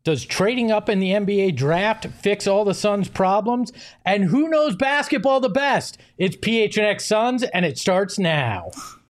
Does trading up in the NBA draft fix all the Suns' problems? And who knows basketball the best? It's PHNX Suns, and it starts now.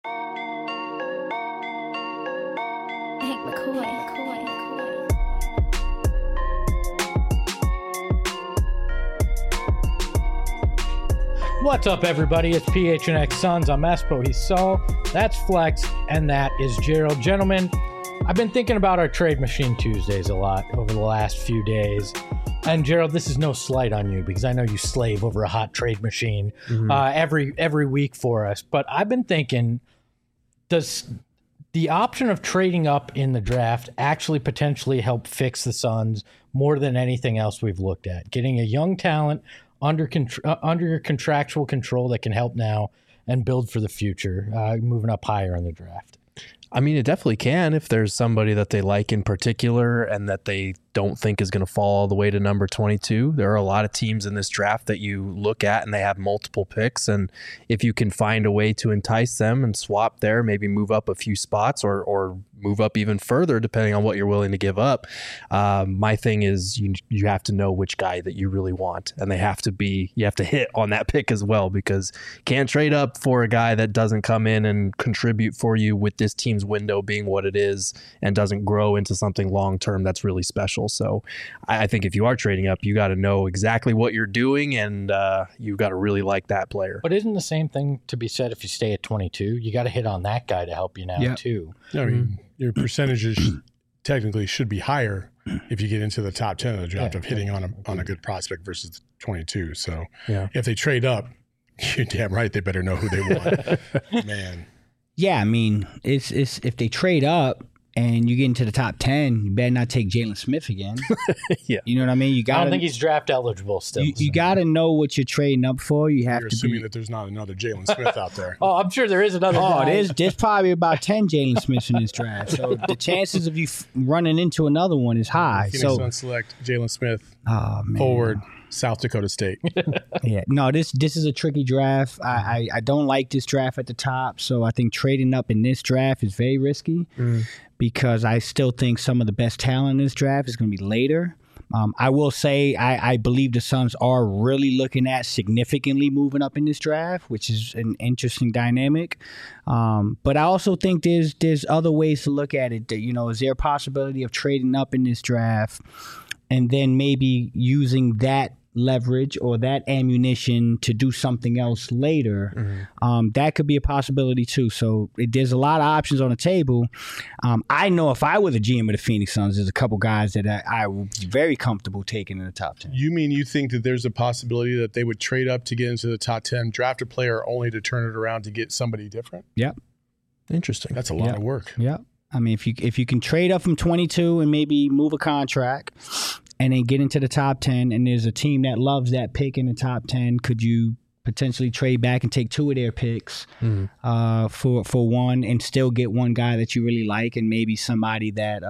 What's up, everybody? It's PHNX Suns. I'm Espo. He's Saul. That's Flex, and that is Gerald. Gentlemen, I've been thinking about our Trade Machine Tuesdays a lot over the last few days. And Gerald, this is no slight on you because I know you slave over a hot trade machine every week for us. But I've been thinking, does the option of trading up in the draft actually potentially help fix the Suns more than anything else we've looked at? Getting a young talent under your contractual control that can help now and build for the future, moving up higher in the draft. I mean, it definitely can if there's somebody that they like in particular and that they don't think is going to fall all the way to number 22. There are a lot of teams in this draft that you look at and they have multiple picks. And if you can find a way to entice them and swap there, maybe move up a few spots or move up even further, depending on what you're willing to give up. My thing is you have to know which guy that you really want. And you have to hit on that pick as well, because you can't trade up for a guy that doesn't come in and contribute for you with this team's window being what it is and doesn't grow into something long-term that's really special. So I think if you are trading up, you got to know exactly what you're doing, and you've got to really like that player. But isn't the same thing to be said if you stay at 22? You got to hit on that guy to help you now, too. I mean, your percentages technically should be higher if you get into the top 10 of the draft of hitting on a good prospect versus 22. So if they trade up, you're damn right they better know who they want. Man. Yeah, I mean, it's if they trade up and you get into the top 10, you better not take Jalen Smith again. You know what I mean? I don't think he's draft eligible still. You got to know what you're trading up for. You're assuming that there's not another Jalen Smith out there. Oh, I'm sure there is another guy. There's probably about 10 Jalen Smiths in this draft. So the chances of you running into another one is high. Phoenix Suns select Jalen Smith, forward, South Dakota State. This is a tricky draft. I don't like this draft at the top, so I think trading up in this draft is very risky because I still think some of the best talent in this draft is going to be later. I will say I believe the Suns are really looking at significantly moving up in this draft, which is an interesting dynamic. But I also think there's other ways to look at it. Is there a possibility of trading up in this draft and then maybe using that leverage or that ammunition to do something else later? That could be a possibility too. So there's a lot of options on the table. I know if I were the GM of the Phoenix Suns, there's a couple guys that I would be very comfortable taking in the top 10. You mean you think that there's a possibility that they would trade up to get into the top 10, draft a player only to turn it around to get somebody different? Yep. Interesting. That's a lot of work. Yep. I mean, if you can trade up from 22 and maybe move a contract and then get into the top 10, and there's a team that loves that pick in the top 10, could you potentially trade back and take two of their picks for one and still get one guy that you really like and maybe somebody that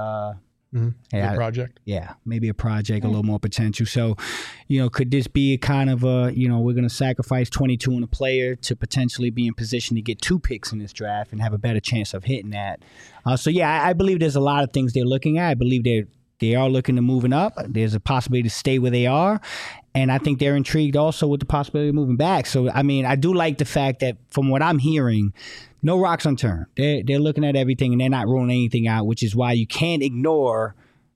a project? Yeah, maybe a project, a little more potential. So, could this be a kind of we're going to sacrifice 22 on a player to potentially be in position to get two picks in this draft and have a better chance of hitting that? I believe there's a lot of things they're looking at. I believe they are looking to moving up. There's a possibility to stay where they are. And I think they're intrigued also with the possibility of moving back. So, I mean, I do like the fact that from what I'm hearing, no rocks unturned. They're looking at everything and they're not ruling anything out, which is why you can't ignore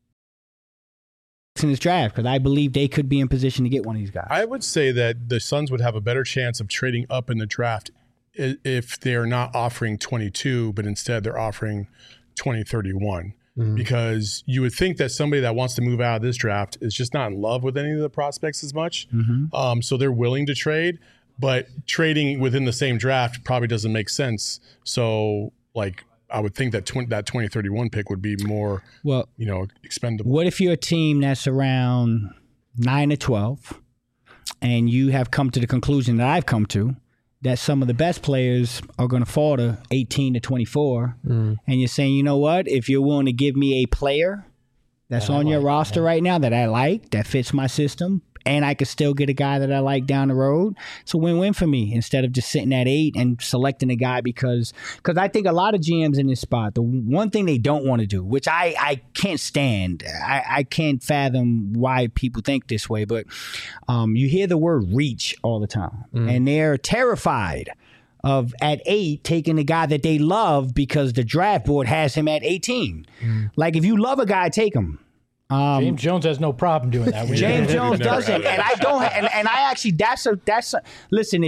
in this draft, because I believe they could be in position to get one of these guys. I would say that the Suns would have a better chance of trading up in the draft if they're not offering 22, but instead they're offering 2031. Because you would think that somebody that wants to move out of this draft is just not in love with any of the prospects as much. So they're willing to trade, but trading within the same draft probably doesn't make sense. So, I would think that that 2031 pick would be more, expendable. What if you're a team that's around 9 to 12 and you have come to the conclusion that I've come to, that some of the best players are going to fall to 18 to 24. And you're saying, you know what, if you're willing to give me a player that's on your roster right now that I like, that fits my system, and I could still get a guy that I like down the road. It's a win-win for me instead of just sitting at 8 and selecting a guy because I think a lot of GMs in this spot, the one thing they don't want to do, which I can't stand, I can't fathom why people think this way, but you hear the word reach all the time, and they're terrified of at 8 taking the guy that they love because the draft board has him at 18. Like if you love a guy, take him. James Jones has no problem doing that. James Jones doesn't, and I don't. And I actually, that's a. Listen,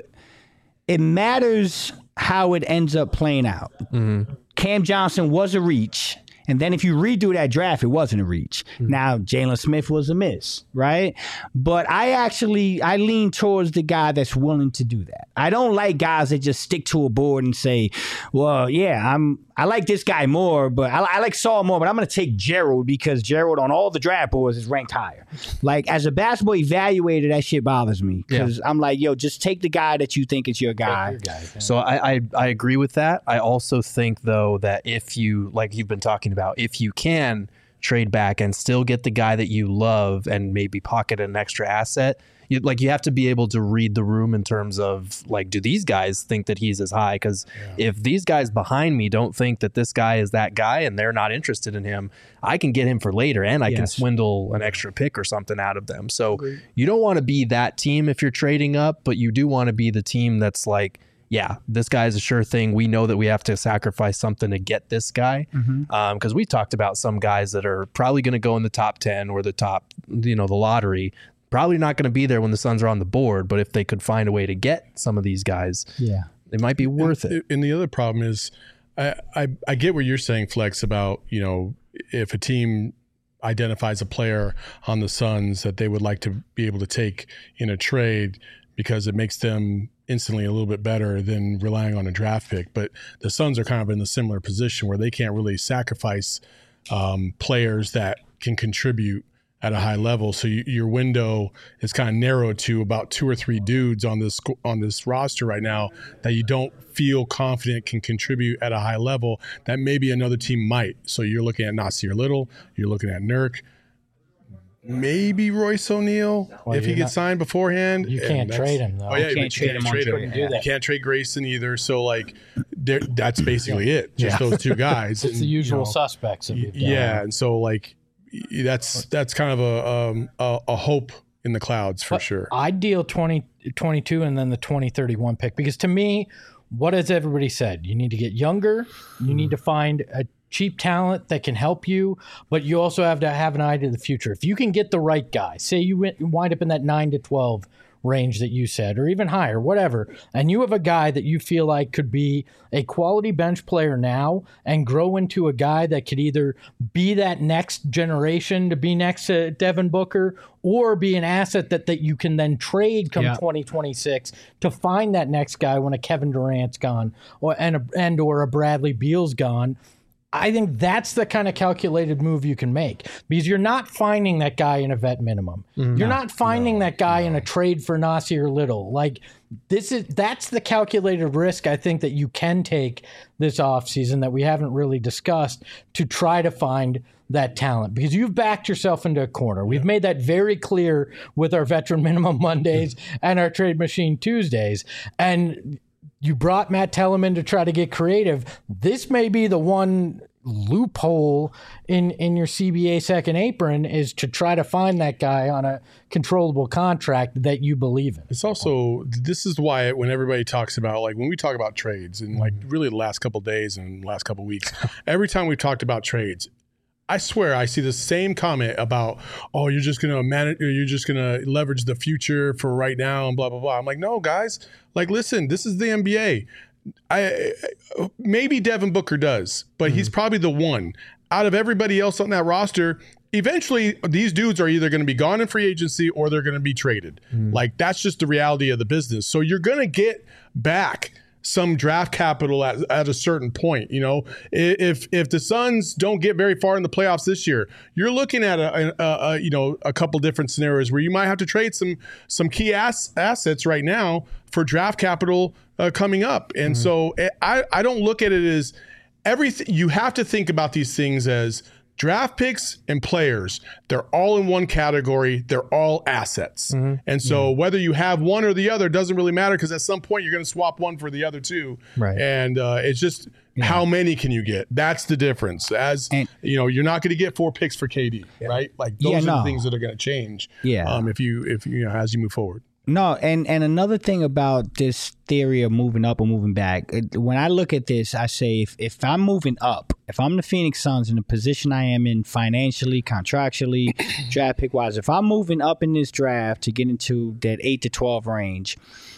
it matters how it ends up playing out. Cam Johnson was a reach. And then if you redo that draft, it wasn't a reach. Now, Jalen Smith was a miss, right? But I lean towards the guy that's willing to do that. I don't like guys that just stick to a board and say, well, yeah, I like this guy more, but I like Saul more, but I'm going to take Gerald because Gerald on all the draft boards is ranked higher. Like, as a basketball evaluator, that shit bothers me because I'm like, yo, just take the guy that you think is your guy. So I agree with that. I also think, though, that if you, like you've been talking about, if you can trade back and still get the guy that you love and maybe pocket an extra asset, you have to be able to read the room in terms of, like, do these guys think that he's as high? Because if these guys behind me don't think that this guy is that guy and they're not interested in him, I can get him for later and I can swindle an extra pick or something out of them. So you don't want to be that team if you're trading up, but you do want to be the team that's like, yeah, this guy's a sure thing. We know that we have to sacrifice something to get this guy. Because we talked about some guys that are probably going to go in the top 10 or the top, the lottery. Probably not going to be there when the Suns are on the board. But if they could find a way to get some of these guys, it might be worth it. And the other problem is, I get what you're saying, Flex, about, if a team identifies a player on the Suns that they would like to be able to take in a trade because it makes them instantly a little bit better than relying on a draft pick. But the Suns are kind of in a similar position where they can't really sacrifice players that can contribute at a high level. So your window is kind of narrowed to about 2 or 3 dudes on this roster right now that you don't feel confident can contribute at a high level that maybe another team might. So you're looking at Nasir Little, you're looking at Nurk, maybe Royce O'Neal if he gets signed beforehand. You can't trade him, though. Oh, yeah, you can't trade him. You can't trade Grayson either. So, like, that's basically it. Just those 2 guys. It's the usual suspects. And so, like, that's kind of a hope in the clouds for sure. I'd deal 2022 and then the 2031 pick because, to me, what has everybody said? You need to get younger. You need to find a cheap talent that can help you, but you also have to have an eye to the future. If you can get the right guy, say you wind up in that 9 to 12 range that you said, or even higher, whatever, and you have a guy that you feel like could be a quality bench player now and grow into a guy that could either be that next generation to be next to Devin Booker or be an asset that you can then trade come 2026 to find that next guy when a Kevin Durant's gone or a Bradley Beal's gone. I think that's the kind of calculated move you can make because you're not finding that guy in a vet minimum. You're not finding that guy in a trade for Nasir Little. Like that's the calculated risk I think that you can take this offseason that we haven't really discussed to try to find that talent because you've backed yourself into a corner. We've made that very clear with our Veteran Minimum Mondays and our Trade Machine Tuesdays. And you brought Matt Telemann to try to get creative. This may be the one loophole in your CBA second apron is to try to find that guy on a controllable contract that you believe in. It's also, this is why when everybody talks about, like when we talk about trades and like really the last couple of days and last couple of weeks, every time we've talked about trades, I swear I see the same comment about, oh, you're just going to manage, or you're just going to leverage the future for right now and blah, blah, blah. I'm like, no, guys, like, listen, this is the NBA. Maybe Devin Booker does, but he's probably the one out of everybody else on that roster. Eventually, these dudes are either going to be gone in free agency or they're going to be traded. Like, that's just the reality of the business. So you're going to get back some draft capital at a certain point. If the Suns don't get very far in the playoffs this year, you're looking at a couple different scenarios where you might have to trade some key assets right now for draft capital coming up. And so I don't look at it as everything. You have to think about these things as draft picks and players, they're all in one category. They're all assets. And so whether you have one or the other doesn't really matter, because at some point you're going to swap one for the other two. Right. And it's just how many can you get? That's the difference. You're not going to get 4 picks for KD, right? Like those are the things that are going to change. If you as you move forward. No, and another thing about this theory of moving up or moving back, when I look at this, I say if I'm moving up, if I'm the Phoenix Suns in the position I am in financially, contractually, draft pick wise, if I'm moving up in this draft to get into that 8 to 12 range,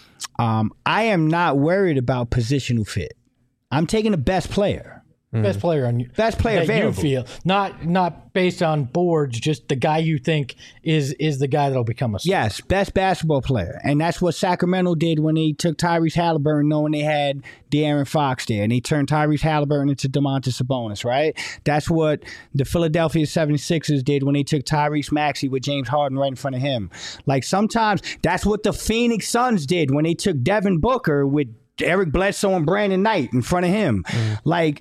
I am not worried about positional fit. I'm taking the best player. Best player available. You feel, not based on boards, just the guy you think is the guy that'll become a star. Yes, best basketball player. And that's what Sacramento did when they took Tyrese Halliburton, knowing they had De'Aaron Fox there, and they turned Tyrese Halliburton into Domantas Sabonis, right? That's what the Philadelphia 76ers did when they took Tyrese Maxey with James Harden right in front of him. Like, sometimes that's what the Phoenix Suns did when they took Devin Booker with Eric Bledsoe and Brandon Knight in front of him. Like,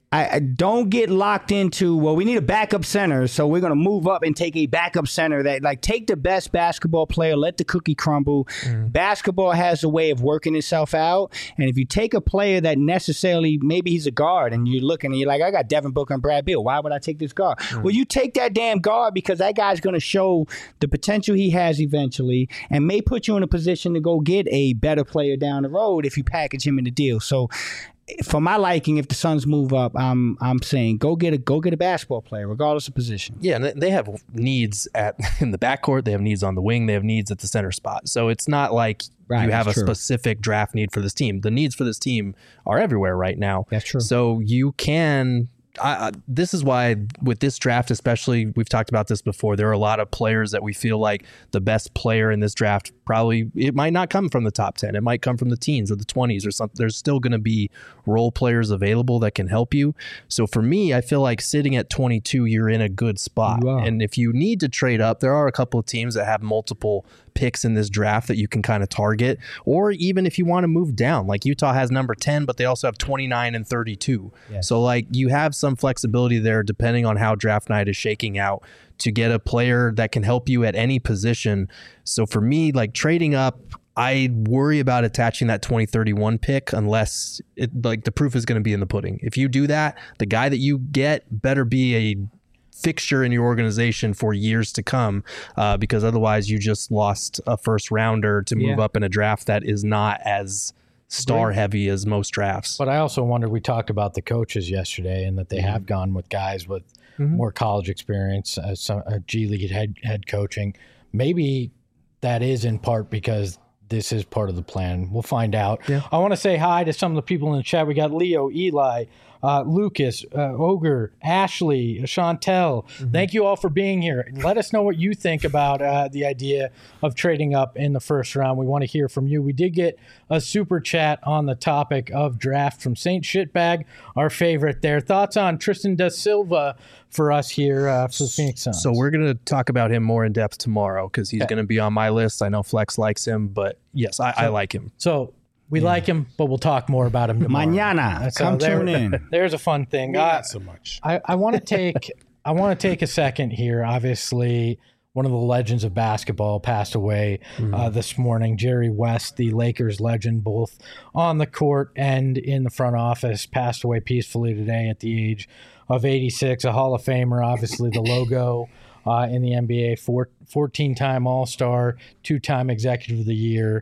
I don't get locked into, well, we need a backup center, so we're going to move up and take a backup center. That, like, take the best basketball player, let the cookie crumble. Basketball has a way of working itself out, and if you take a player that necessarily, maybe he's a guard, and you're looking and you're like, I got Devin Booker and Brad Beal. Why would I take this guard? Well, you take that damn guard because that guy's going to show the potential he has eventually and may put you in a position to go get a better player down the road if you package him in the deal. So, for my liking, if the Suns move up, I'm saying go get a basketball player, regardless of position. Yeah, and they have needs in the backcourt. They have needs on the wing. They have needs at the center spot. So it's not like you have a specific draft need for this team. The needs for this team are everywhere right now. That's true. So you can. This is why with this draft, especially, we've talked about this before, there are a lot of players that we feel like the best player in this draft, probably it might not come from the top 10. It might come from the teens or the 20s or something. There's still going to be role players available that can help you. So for me, I feel like sitting at 22, you're in a good spot. And if you need to trade up, there are a couple of teams that have multiple picks in this draft that you can kind of target, or even if you want to move down, like Utah has number 10, but they also have 29 and 32. So like you have some flexibility there depending on how draft night is shaking out to get a player that can help you at any position. So for me, like trading up, I worry about attaching that 2031 pick unless the proof is going to be in the pudding. If you do that, the guy that you get better be a fixture in your organization for years to come, because otherwise you just lost a first rounder to move up in a draft that is not as star heavy as most drafts. But I also wonder, we talked about the coaches yesterday and that they have gone with guys with more college experience, a G League head coaching. Maybe that is in part because this is part of the plan. We'll find out. I want to say hi to some of the people in the chat. We got Leo, Eli, Lucas, Ogre, Ashley, Chantel. Thank you all for being here. Let us know what you think about the idea of trading up in the first round. We want to hear from you. We did get a super chat on the topic of draft from Saint Shitbag, our favorite there. Thoughts on Tristan da Silva for us here for the Phoenix Suns? So we're going to talk about him more in depth tomorrow because he's going to be on my list. I know Flex likes him, but yes, I like him. So we like him, but we'll talk more about him tomorrow. Mañana. Come tune in. There's a fun thing. Not so much. I want to take a second here. Obviously, one of the legends of basketball passed away this morning. Jerry West, the Lakers legend, both on the court and in the front office, passed away peacefully today at the age of 86. A Hall of Famer, obviously the logo in the NBA, 14-time All-Star, 2-time Executive of the Year.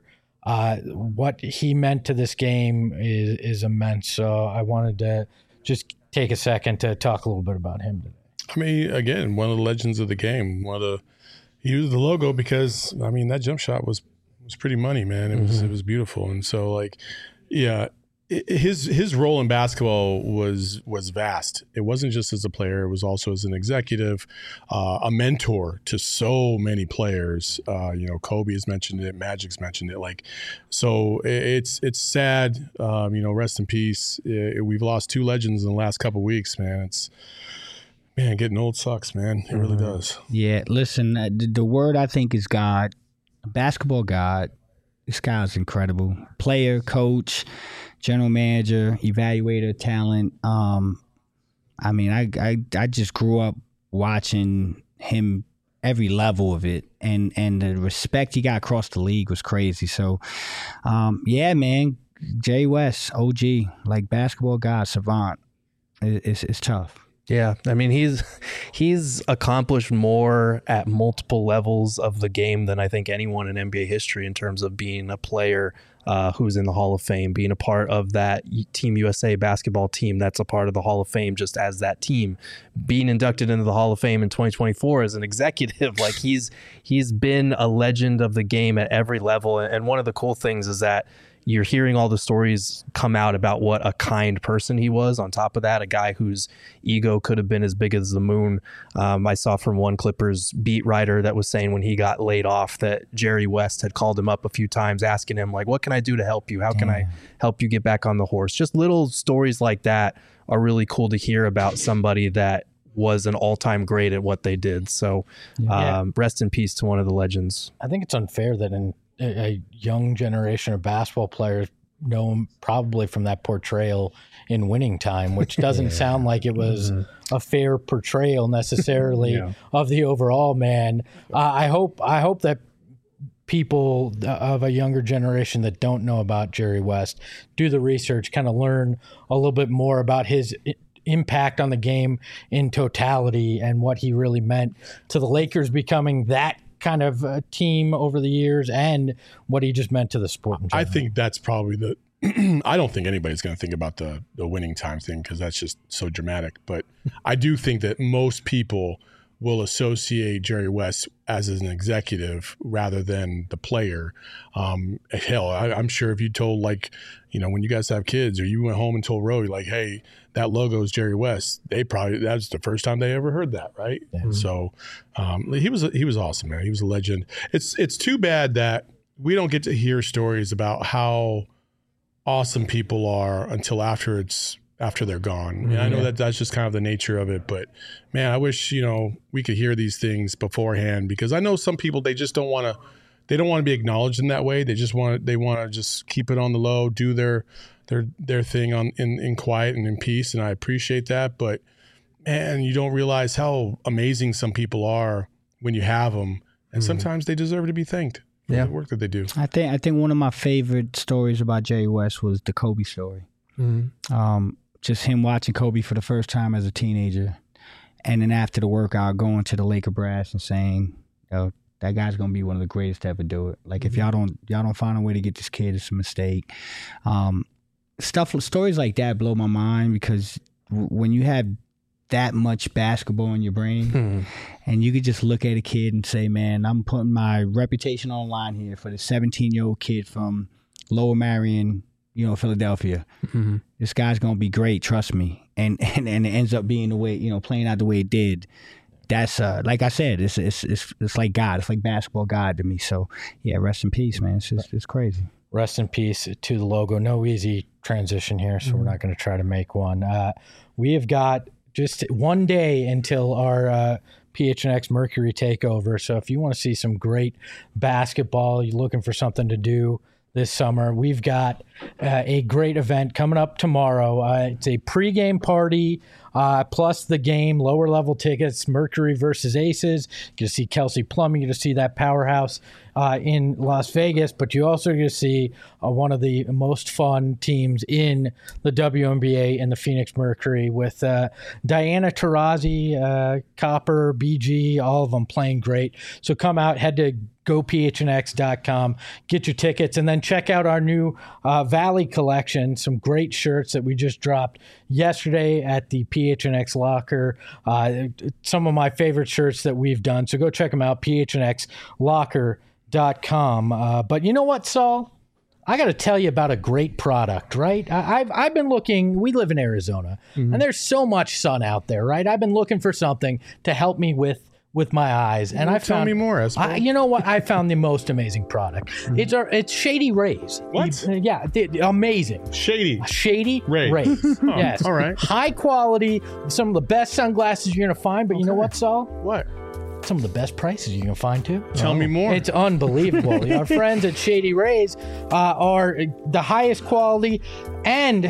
What he meant to this game is immense. So I wanted to just take a second to talk a little bit about him today. I mean, again, one of the legends of the game. He used the logo because, I mean, that jump shot was pretty money, man. It was beautiful. And so, like, yeah, his role in basketball was vast. It wasn't just as a player; it was also as an executive, a mentor to so many players. Kobe has mentioned it, Magic's mentioned it. Like, so it's sad. Rest in peace. We've lost 2 legends in the last couple of weeks, man. Getting old sucks, man. It really does. Yeah, listen, the word I think is God, basketball God. This guy is incredible. Player, coach, general manager, evaluator, talent. I mean, I just grew up watching him every level of it, and the respect he got across the league was crazy. So, yeah, man, Jerry West, OG, like basketball god, savant. It's tough. Yeah, I mean, he's accomplished more at multiple levels of the game than I think anyone in NBA history in terms of being a player who's in the Hall of Fame, being a part of that Team USA basketball team that's a part of the Hall of Fame just as that team, being inducted into the Hall of Fame in 2024 as an executive. Like he's been a legend of the game at every level. And one of the cool things is that you're hearing all the stories come out about what a kind person he was. On top of that, a guy whose ego could have been as big as the moon. I saw from one Clippers beat writer that was saying when he got laid off that Jerry West had called him up a few times asking him, like, what can I do to help you? How can I help you get back on the horse? Just little stories like that are really cool to hear about somebody that was an all-time great at what they did. So rest in peace to one of the legends. I think it's unfair that a young generation of basketball players know him probably from that portrayal in Winning Time, which doesn't sound like it was a fair portrayal necessarily of the overall man. I hope that people of a younger generation that don't know about Jerry West do the research, kind of learn a little bit more about his impact on the game in totality and what he really meant to the Lakers becoming that kind of team over the years and what he just meant to the sport in general. I think that's probably I don't think anybody's going to think about the Winning Time thing because that's just so dramatic. But I do think that most people will associate Jerry West as an executive rather than the player. Hell, I'm sure if you told, like, you know, when you guys have kids or you went home and told Roe, like, hey, that logo is Jerry West, that's the first time they ever heard that, right? Yeah. So he was awesome, man. He was a legend. It's too bad that we don't get to hear stories about how awesome people are until after they're gone. And I know that's just kind of the nature of it, but man, I wish, you know, we could hear these things beforehand, because I know some people, they just don't want to be acknowledged in that way. They want to just keep it on the low, do their thing in quiet and in peace. And I appreciate that, but man, you don't realize how amazing some people are when you have them. And sometimes they deserve to be thanked for the work that they do. I think one of my favorite stories about Jerry West was the Kobe story. Just him watching Kobe for the first time as a teenager, and then after the workout going to the Laker brass and saying, "Yo, that guy's gonna be one of the greatest to ever do it. Like, if y'all don't find a way to get this kid, it's a mistake." Stories like that blow my mind, because when you have that much basketball in your brain, and you could just look at a kid and say, "Man, I'm putting my reputation on the line here for the 17-year-old kid from Lower Marion, Philadelphia. This guy's gonna be great, trust me." And it ends up being the way, playing out the way it did. That's like I said, it's like God. It's like basketball God to me. So yeah, rest in peace, man. It's crazy. Rest in peace to the logo. No easy transition here, so we're not going to try to make one. We have got just one day until our PHNX Mercury takeover. So if you want to see some great basketball, you're looking for something to do this summer, we've got a great event coming up tomorrow. It's a pregame party plus the game, lower level tickets, Mercury versus Aces. You're going to see Kelsey Plum. You're going to see that powerhouse in Las Vegas, but you also going to see one of the most fun teams in the WNBA and the Phoenix Mercury with Diana Taurasi, Copper, BG, all of them playing great. So come out, head to gophnx.com, get your tickets, and then check out our new Valley collection, some great shirts that we just dropped yesterday at the PHNX Locker. Some of my favorite shirts that we've done, so go check them out, phnxlocker.com. But you know what, Saul? I got to tell you about a great product, right? I've been looking, we live in Arizona, and there's so much sun out there, right? I've been looking for something to help me with my eyes, and I found. Tell me more, Espo. You know what? I found the most amazing product. It's Shady Rays. What? Amazing. Shady Rays. Oh, yes. All right. High quality. Some of the best sunglasses you're gonna find. But you know what, Saul? What? Some of the best prices you can find too. Tell me more. It's unbelievable. Our friends at Shady Rays are the highest quality and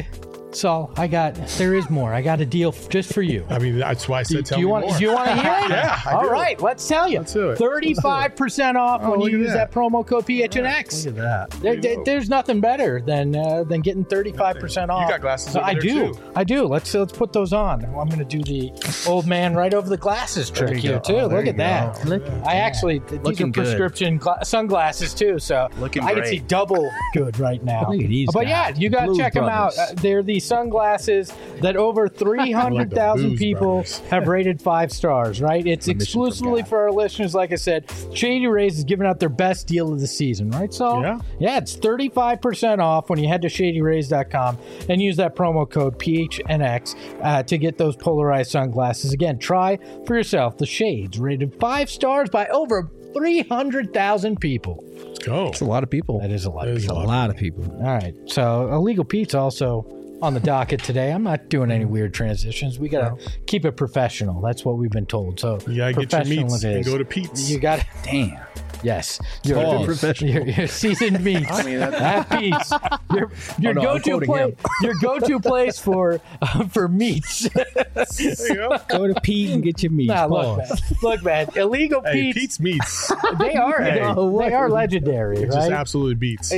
Saul, there is more. I got a deal just for you. I mean, that's why I said tell me more. Do you want to hear it? Yeah, I All do. right, let's tell you. Let's do it. 35% off when you use that promo code PHNX. Look at that. There's nothing better than getting 35% off. You got glasses over I there, do. too. I do. Let's put those on. I'm going to do the old man right over the glasses trick you here go. too. Oh, there Look you at that. go. I actually these Looking are good. prescription sunglasses too, so Looking I can great. see double good right now. Look at these But yeah, guys. you got to Blues check them out. Brothers. They're the sunglasses that over 300,000 Blues people Brothers. have rated 5 stars. Right? It's exclusively for our listeners. Like I said, Shady Rays is giving out their best deal of the season. Right, Saul? Yeah. Yeah, it's 35% off when you head to ShadyRays.com and use that promo code PHNX to get those polarized sunglasses. Again, try for yourself the shades rated 5 stars by over 300,000 people. Let's go. It's a lot of people. That is a lot. That Of is people. A lot of people. All right. So Illegal Pete's also on the docket today. I'm not doing any weird transitions. We got to keep it professional. That's what we've been told. So You gotta get your professional meats it and is. go to Pete's. You got to. Damn. Yes, Pause. your seasoned meats. I mean, at Pete's, your no, I'm go-to quoting place, him. your go-to place for meats. There you go. Go to Pete and get your meat. Nah, look, man, Illegal Hey, Pete's. Pete's meats. They are they are legendary, It just right? absolutely beats.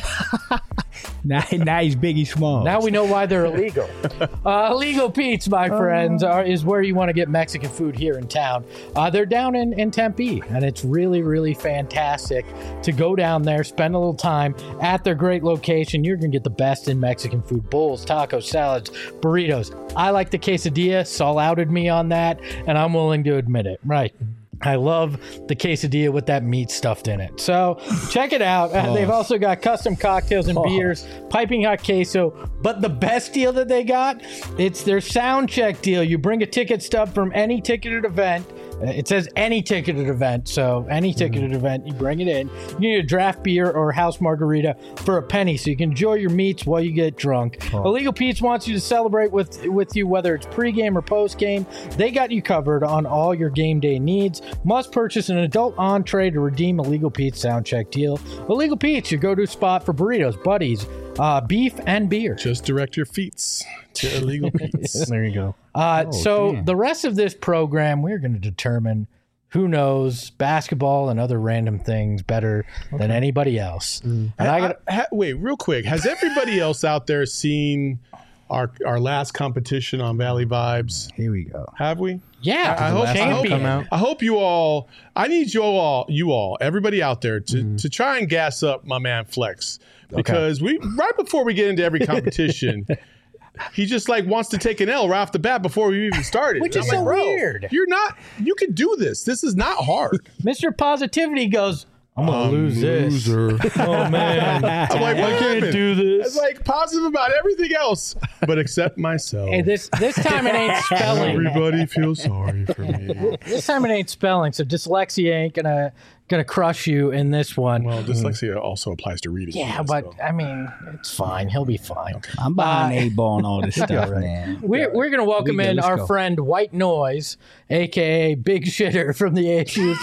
Now he's Biggie Small. Now we know why they're illegal. Illegal Pete's, my friends, is where you want to get Mexican food here in town. They're down in Tempe, and it's really, really fantastic to go down there, spend a little time at their great location. You're going to get the best in Mexican food: bowls, tacos, salads, burritos. I like the quesadilla. Saul outed me on that, and I'm willing to admit it. Right. I love the quesadilla with that meat stuffed in it. So check it out. They've also got custom cocktails and beers, piping hot queso. But the best deal that they got, it's their sound check deal. You bring a ticket stub from any ticketed event. It says any ticketed event, so any ticketed event, you bring it in. You need a draft beer or house margarita for a penny, so you can enjoy your meats while you get drunk. Illegal Pete's wants you to celebrate with you, whether it's pregame or postgame. They got you covered on all your game day needs. Must purchase an adult entree to redeem Illegal Pete's sound check deal. Illegal Pete's, your go-to spot for burritos, buddies, beef, and beer. Just direct your feet to Illegal Pete's. There you go. So the rest of this program, we're going to determine who knows basketball and other random things better than anybody else. And Wait, real quick. Has everybody else out there seen our last competition on Valley Vibes? Here we go. Have we? yeah, I hope, champion. I hope you all. I need you all, everybody out there, to try and gas up my man Flex, because right before we get into every competition, he just wants to take an L right off the bat before we even started. Which And is I'm so bro, weird. You're not. You can do this. This is not hard. Mr. Positivity goes, I'm going to lose this. Oh, man. I'm like, what I can't happened? do this. It's like positive about everything else, but except myself. Hey, this time it ain't spelling. Everybody feels sorry for me. This time it ain't spelling, so dyslexia ain't gonna crush you in this one. Well, dyslexia also applies to reading. Yeah, but I mean, it's fine. He'll be fine. I'm buying A-ball and all this stuff, man. We're gonna welcome We good, in let's our go. friend White Noise, aka Big Shitter from the ASU.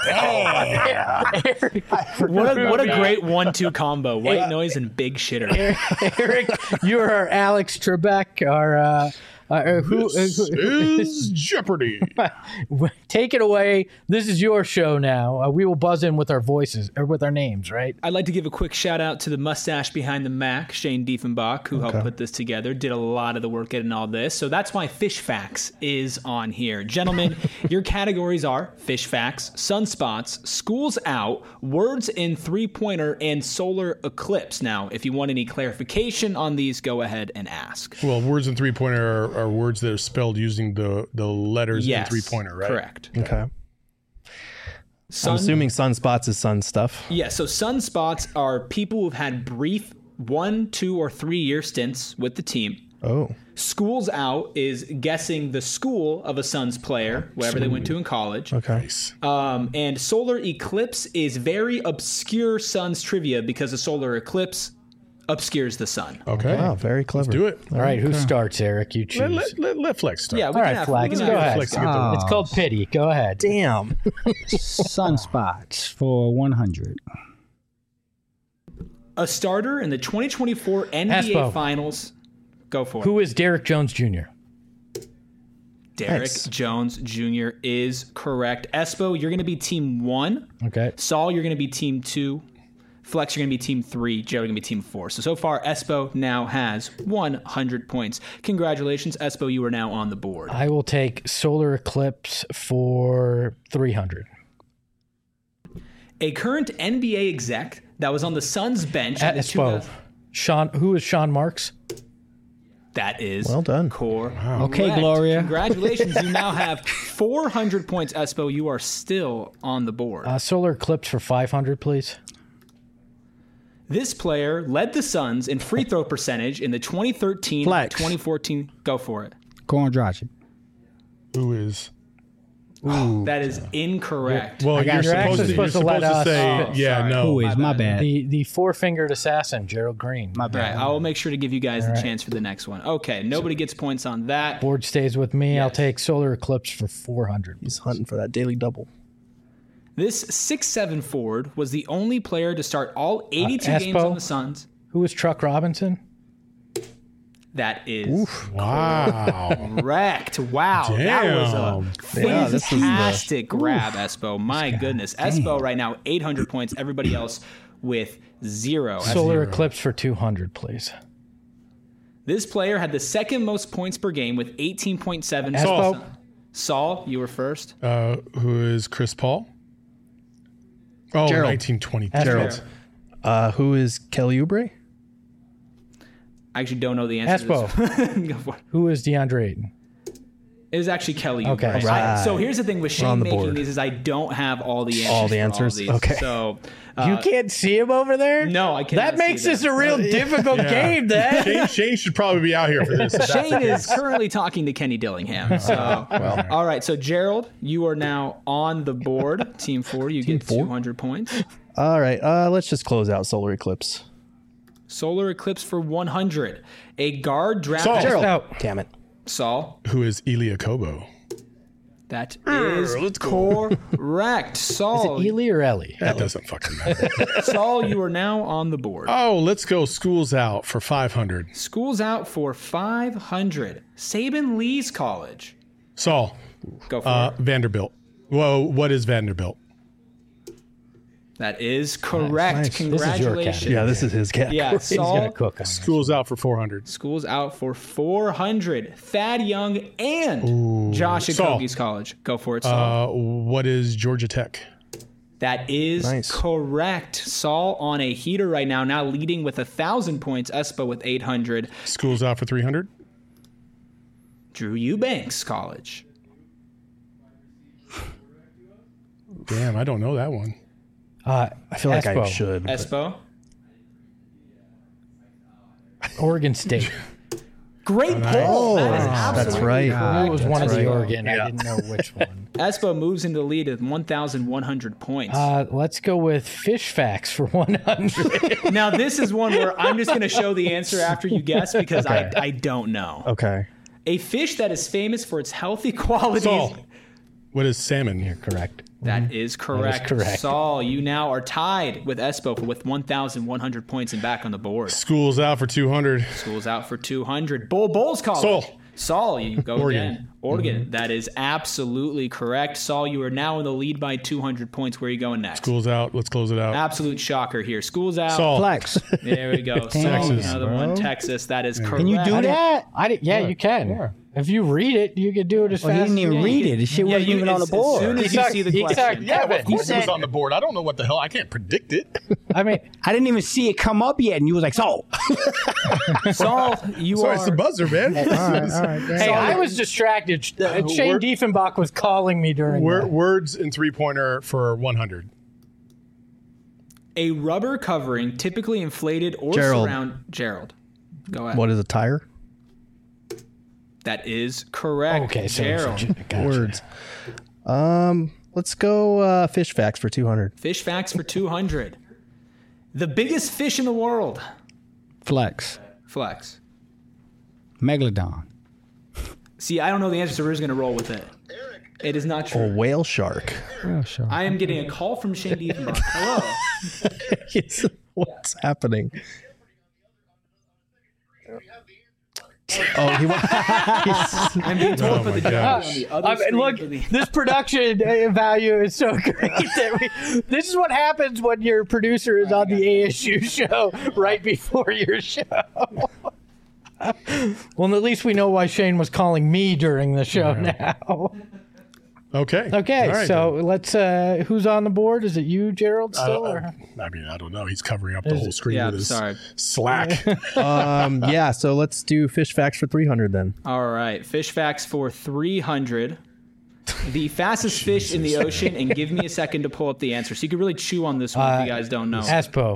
What a great 1-2 combo. White Noise and Big Shitter. Eric, you are our Alex Trebek, our This is Jeopardy. Take it away. This is your show now. We will buzz in with our voices or with our names, right? I'd like to give a quick shout out to the mustache behind the Mac, Shane Diefenbach, who helped put this together, did a lot of the work getting all this. So that's why Fish Facts is on here. Gentlemen, your categories are Fish Facts, Sunspots, Schools Out, Words in Three-Pointer, and Solar Eclipse. Now, if you want any clarification on these, go ahead and ask. Well, words in three-pointer are words that are spelled using the letters in three-pointer, right? Correct. Okay. Sun, I'm assuming sunspots is sun stuff. Yeah, so sunspots are people who've had brief 1, 2, or 3 year stints with the team. Oh. Schools Out is guessing the school of a Suns player, wherever they went to in college. Okay. And Solar Eclipse is very obscure Suns trivia because a solar eclipse obscures the sun. Okay. Wow, very clever. Do it. All right, who starts, Eric? You choose. Let Flex start. Yeah, we All can right, have, Flex, we can go have ahead. Flex to get the It's called pity. Go ahead. Damn. Sunspots for 100. a starter in the 2024 NBA Espo. Finals. Go for it. Who is Derek Jones Jr.? Derek Nice. Jones Jr. is correct. Espo, you're going to be team 1. Okay. Saul, you're going to be team 2. Flex, you're going to be team 3. Jared, you're going to be team 4. So far, Espo now has 100 points. Congratulations, Espo. You are now on the board. I will take Solar Eclipse for 300. A current NBA exec that was on the Suns bench. in the Espo. Who is Sean Marks? That is Well done. correct. Okay, Gloria. Congratulations. You now have 400 points, Espo. You are still on the board. Solar Eclipse for 500, please. This player led the Suns in free throw percentage in the 2013 Flex. 2014. Go for it. Goran Dragic. Who is? That is incorrect. Well, got you're it. supposed to let us- say, Oh, yeah, sorry. no. Who is? My bad. The four-fingered assassin, Gerald Green. My All right, bad. I will make sure to give you guys the chance for the next one. Okay, nobody gets points on that. Board stays with me. I'll Yes. take Solar Eclipse for 400. He's hunting for that daily double. This 6'7" forward was the only player to start all 82 games Espo? on the Suns. Who is Truck Robinson? That is Wow. correct. Wow, that was a Yeah, this is the- fantastic grab, Espo. My goodness. Espo right now, 800 points. Everybody else with 0. Solar Eclipse for 200, please. This player had the second most points per game with 18.7. Espo? Saul, you were first. Who is Chris Paul? Oh, Gerald. 1920. Gerald. Who is Kelly Oubre? I actually don't know the answer to this. Go for it. Who is DeAndre Ayton? It was actually Kelly. Okay. Oubre. Right. So here's the thing with on Shane the making board. these is I don't have all the answers. All the for answers? All these. Okay. So You can't see him over there? no, I can't. That makes this a real difficult game, then. Shane should probably be out here for this. if that's the Shane case. is currently talking to Kenny Dillingham. So, all right. So Gerald, you are now on the board. Team 4, you get 200 points. All right. Let's just close out Solar Eclipse. Solar Eclipse for 100. A guard drafted. Saul. Just out. Damn it. Saul. Who is Elia Kobo? That is correct. Saul. Is it Ely or Ellie? That doesn't fucking matter. Saul, you are now on the board. Oh, let's go schools out for 500. School's out for 500. Saban Lee's college. Saul, Go for it. Vanderbilt. Whoa, what is Vanderbilt? That is correct. Nice. This is your Congratulations. category. Yeah, this is his category. Yeah, He's going Saul. to cook on this. Schools out for 400. School's out for 400. Thad Young and Josh Saul. Okogie's college. Go for it, Saul. What is Georgia Tech? That is Nice. correct. Saul on a heater right now, now leading with 1,000 points. Espo with 800. Schools out for 300. Drew Eubanks College. Damn, I don't know that one. I feel like I Espo. should. but- Espo. Oregon State. Great pull. That is absolutely That's right. I knew it was one of right. the Oregon. I didn't know which one. Espo moves into the lead at 1,100 points. Let's go with Fish Facts for 100. Now, this is one where I'm just going to show the answer after you guess because I don't know. Okay. A fish that is famous for its healthy qualities. Saul, what is salmon? You're correct. That is correct. correct. Saul, you now are tied with Espo with 1,100 points and back on the board. Schools out for 200. School's out for 200. Bulls College. Saul, you go Oregon. again. Oregon. That is absolutely correct. Saul, you are now in the lead by 200 points. Where are you going next? Schools out. Let's close it out. Absolute shocker here. School's out. Saul. Flex. There we go. Saul, Texas, another one. Texas. That is correct. Can you do that? Yeah, you can. If you read it, you can do it as Well, he fast didn't as even you read can. it. The shit wasn't even on the As board. soon as you see the question. Yeah, of course said- it was on the board. I don't know what the hell. I can't predict it. I mean, I didn't even see it come up yet, and you was like, "So." Saul, you Sorry, are. it's the buzzer, man. hey, I was distracted. Shane Diefenbach was calling me during that. Words in three-pointer for 100. A rubber covering, typically inflated or Gerald. surround. Gerald. Go ahead. What is a tire? That is correct. Okay, so Gerald. gotcha. Words. Let's go fish facts for 200. Fish facts for 200. The biggest fish in the world. Flex. Flex. Megalodon. See, I don't know the answer, so we're just going to roll with it. It is not A true. whale shark. Oh, sure. I am getting a call from Shane Diefenbach. Hello. What's happening? Oh, I'm being told to put the gosh. on the other screen. Look, for the- this production value is so great that this is what happens when your producer is on the ASU show right before your show. Well, at least we know why Shane was calling me during the show now. Okay. Okay, All right, so let's. Who's on the board? Is it you, Gerald? Still? I mean, I don't know. He's covering up the whole screen Yeah, with his sorry. Slack. yeah. So let's do fish facts for 300 then. All right, fish facts for 300. The fastest fish in the ocean, and give me a second to pull up the answer. So you can really chew on this one if you guys don't know. Aspo.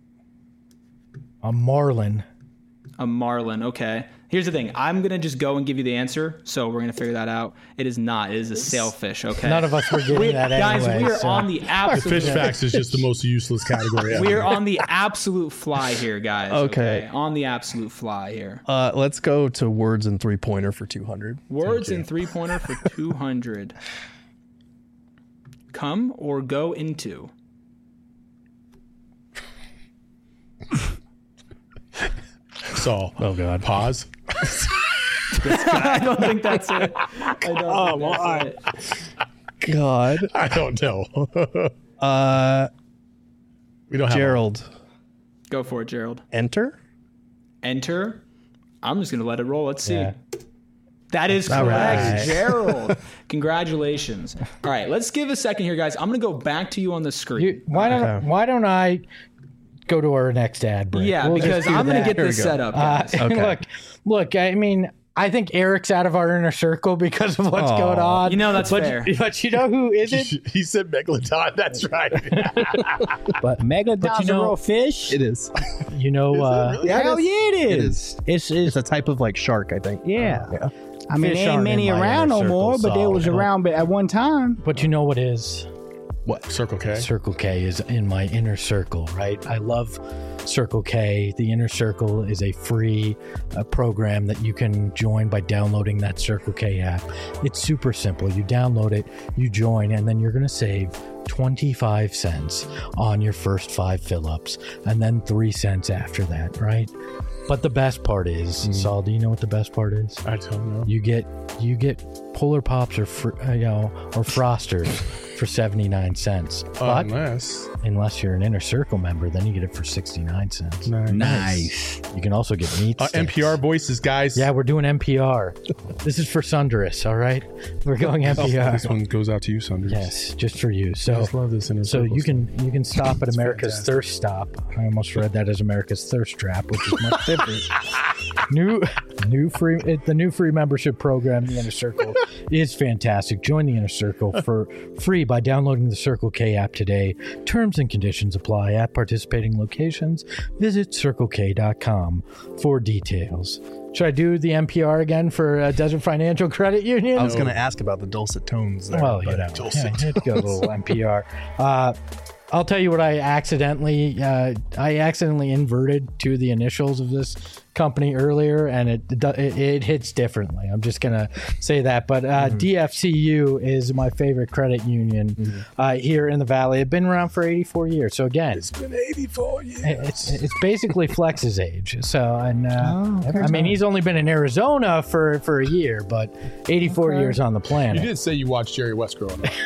A marlin. A marlin, okay. Here's the thing. I'm going to just go and give you the answer, so we're going to figure that out. It is not. It is a sailfish, okay? None of us were getting that Guys, anyway. we are so. on the absolute... Fish facts is just the most useless category ever. We are on the absolute fly here, guys. Okay. On the absolute fly here. Let's go to words and 3-pointer for 200. Words and 3-pointer for 200. Come or go into. Saul. Oh, God. Pause. I don't think that's it. I don't think that's it. God. I don't know. We don't have Gerald. Go for it, Gerald. Enter? Enter. I'm just going to let it roll. Let's see. Yeah. That is correct, right. Gerald. Congratulations. All right, let's give a second here, guys. I'm going to go back to you on the screen. Why don't I go to our next ad break? Yeah, We'll because just do I'm going to that. get this set up, guys. Okay. Look. I mean, I think Eric's out of our inner circle because of what's going on. You know, that's fair. But you know who isn't? He said Megalodon. That's right. But Megalodon's you know- a real fish? It is. you know, Hell yeah, it It is. is. It's a type of like shark, I think. Yeah. I mean, Fish there ain't aren't many in my around inner no more, circle, but they so, was you know. around at one time. but you know what is? What? Circle K? Circle K is in my inner circle, right? I love Circle K. The Inner Circle is a free program that you can join by downloading that Circle K app. It's super simple. You download it, you join, and then you're going to save 25 cents on your first 5 fill-ups, and then 3 cents after that, right? But the best part is, Saul, do you know what the best part is? I don't know. You get Polar Pops or or Frosters for 79 cents. But unless you're an Inner Circle member, then you get it for 69 cents. Nice. You can also get meat sticks. NPR voices, guys. Yeah, we're doing NPR. This is for Sundress, all right? We're going NPR. This one goes out to you, Sunders. Yes, just for you. I So just love this Inner so Circle you can stop at America's fantastic. Thirst Stop. I almost read that as America's Thirst Trap, which is much different. The new free membership program, the Inner Circle, is fantastic. Join the Inner Circle for free by downloading the Circle K app today. Terms and conditions apply at participating locations. Visit CircleK.com for details. Should I do the NPR again for Desert Financial Credit Union? I was going to ask about the dulcet tones there. Well, you but- know, yeah, you had to go a little NPR. I'll tell you what I accidentally inverted to the initials of this company earlier, and it hits differently. I'm just gonna say that. But DFCU is my favorite credit union here in the Valley. It's been around for 84 years. So again, It's been 84 years. it's basically Flex's age. So and I mean, he's only been in Arizona for a year, but 84 years on the You planet. did say you watched Jerry West growing up.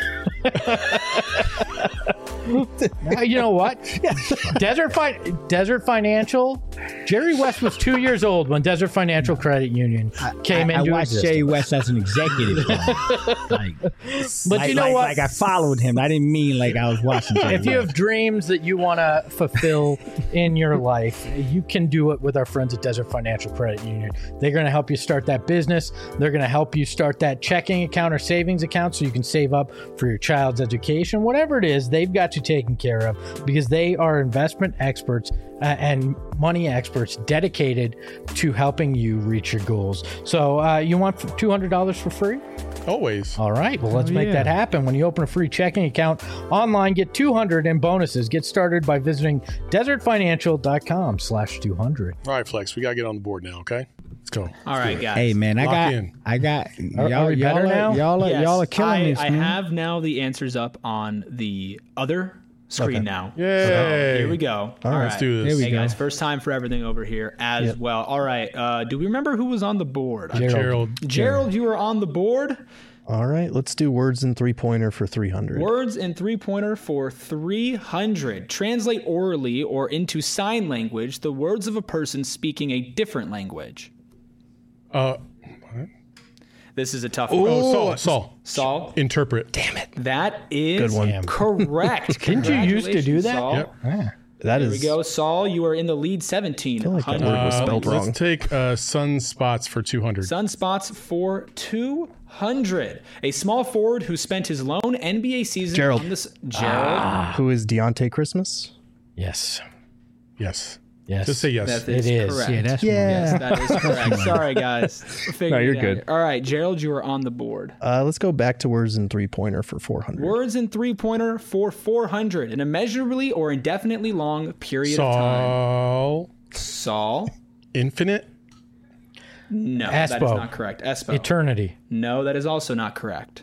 You know what? Desert Financial. Jerry West was 2 years old when Desert Financial Credit Union came I into watched existence. Jerry West as an executive. But you know what? Like I followed him. I didn't mean like I was watching Jerry If you West. have dreams that you want to fulfill in your life, you can do it with our friends at Desert Financial Credit Union. They're going to help you start that business. They're going to help you start that checking account or savings account so you can save up for your child's education. Whatever it is, they've got you taken care of because they are investment experts and money experts dedicated to helping you reach your goals. So you want $200 for free? Always. All right. Well, let's make that happen. When you open a free checking account online, get $200 in bonuses. Get started by visiting desertfinancial.com/200. All right, Flex. We got to get on the board now, okay? Let's go. All right, guys. Hey man, Lock I in. got Are we better now? y'all Yes, are killing this, I man. have now the answers up on the other screen Okay. now. Yay. So, here we go. All Let's do this. Here we Hey go. guys, first time for everything over here as well. All right. Do we remember who was on the board? Gerald. You were on the board. All right, let's do words in 3-pointer for 300. Words in 3-pointer for 300. Translate orally or into sign language the words of a person speaking a different language. This is a tough one. Oh, Saul. Saul. Interpret. Damn it. That is Good one. correct. Didn't you used to do that? Saul. Yep. That There is. we go. Saul, you are in the lead 17. I feel like that word was spelled wrong. Let's take sunspots for 200. Sunspots for 200. A small forward who spent his lone NBA season Gerald. on this. Gerald. Who is Deontay Christmas? Yes. Yes. Yes. Just say yes. That is It is. correct. Yeah, that's Yes, that is correct. Sorry, guys. No, you're good. All right, Gerald, you are on the board. Let's go back to words in 3-pointer for 400. Words in 3-pointer for 400. An immeasurably or indefinitely long period of time. Saul. Infinite. No, that is Espo. not correct. Espo. Eternity. No, that is also not correct.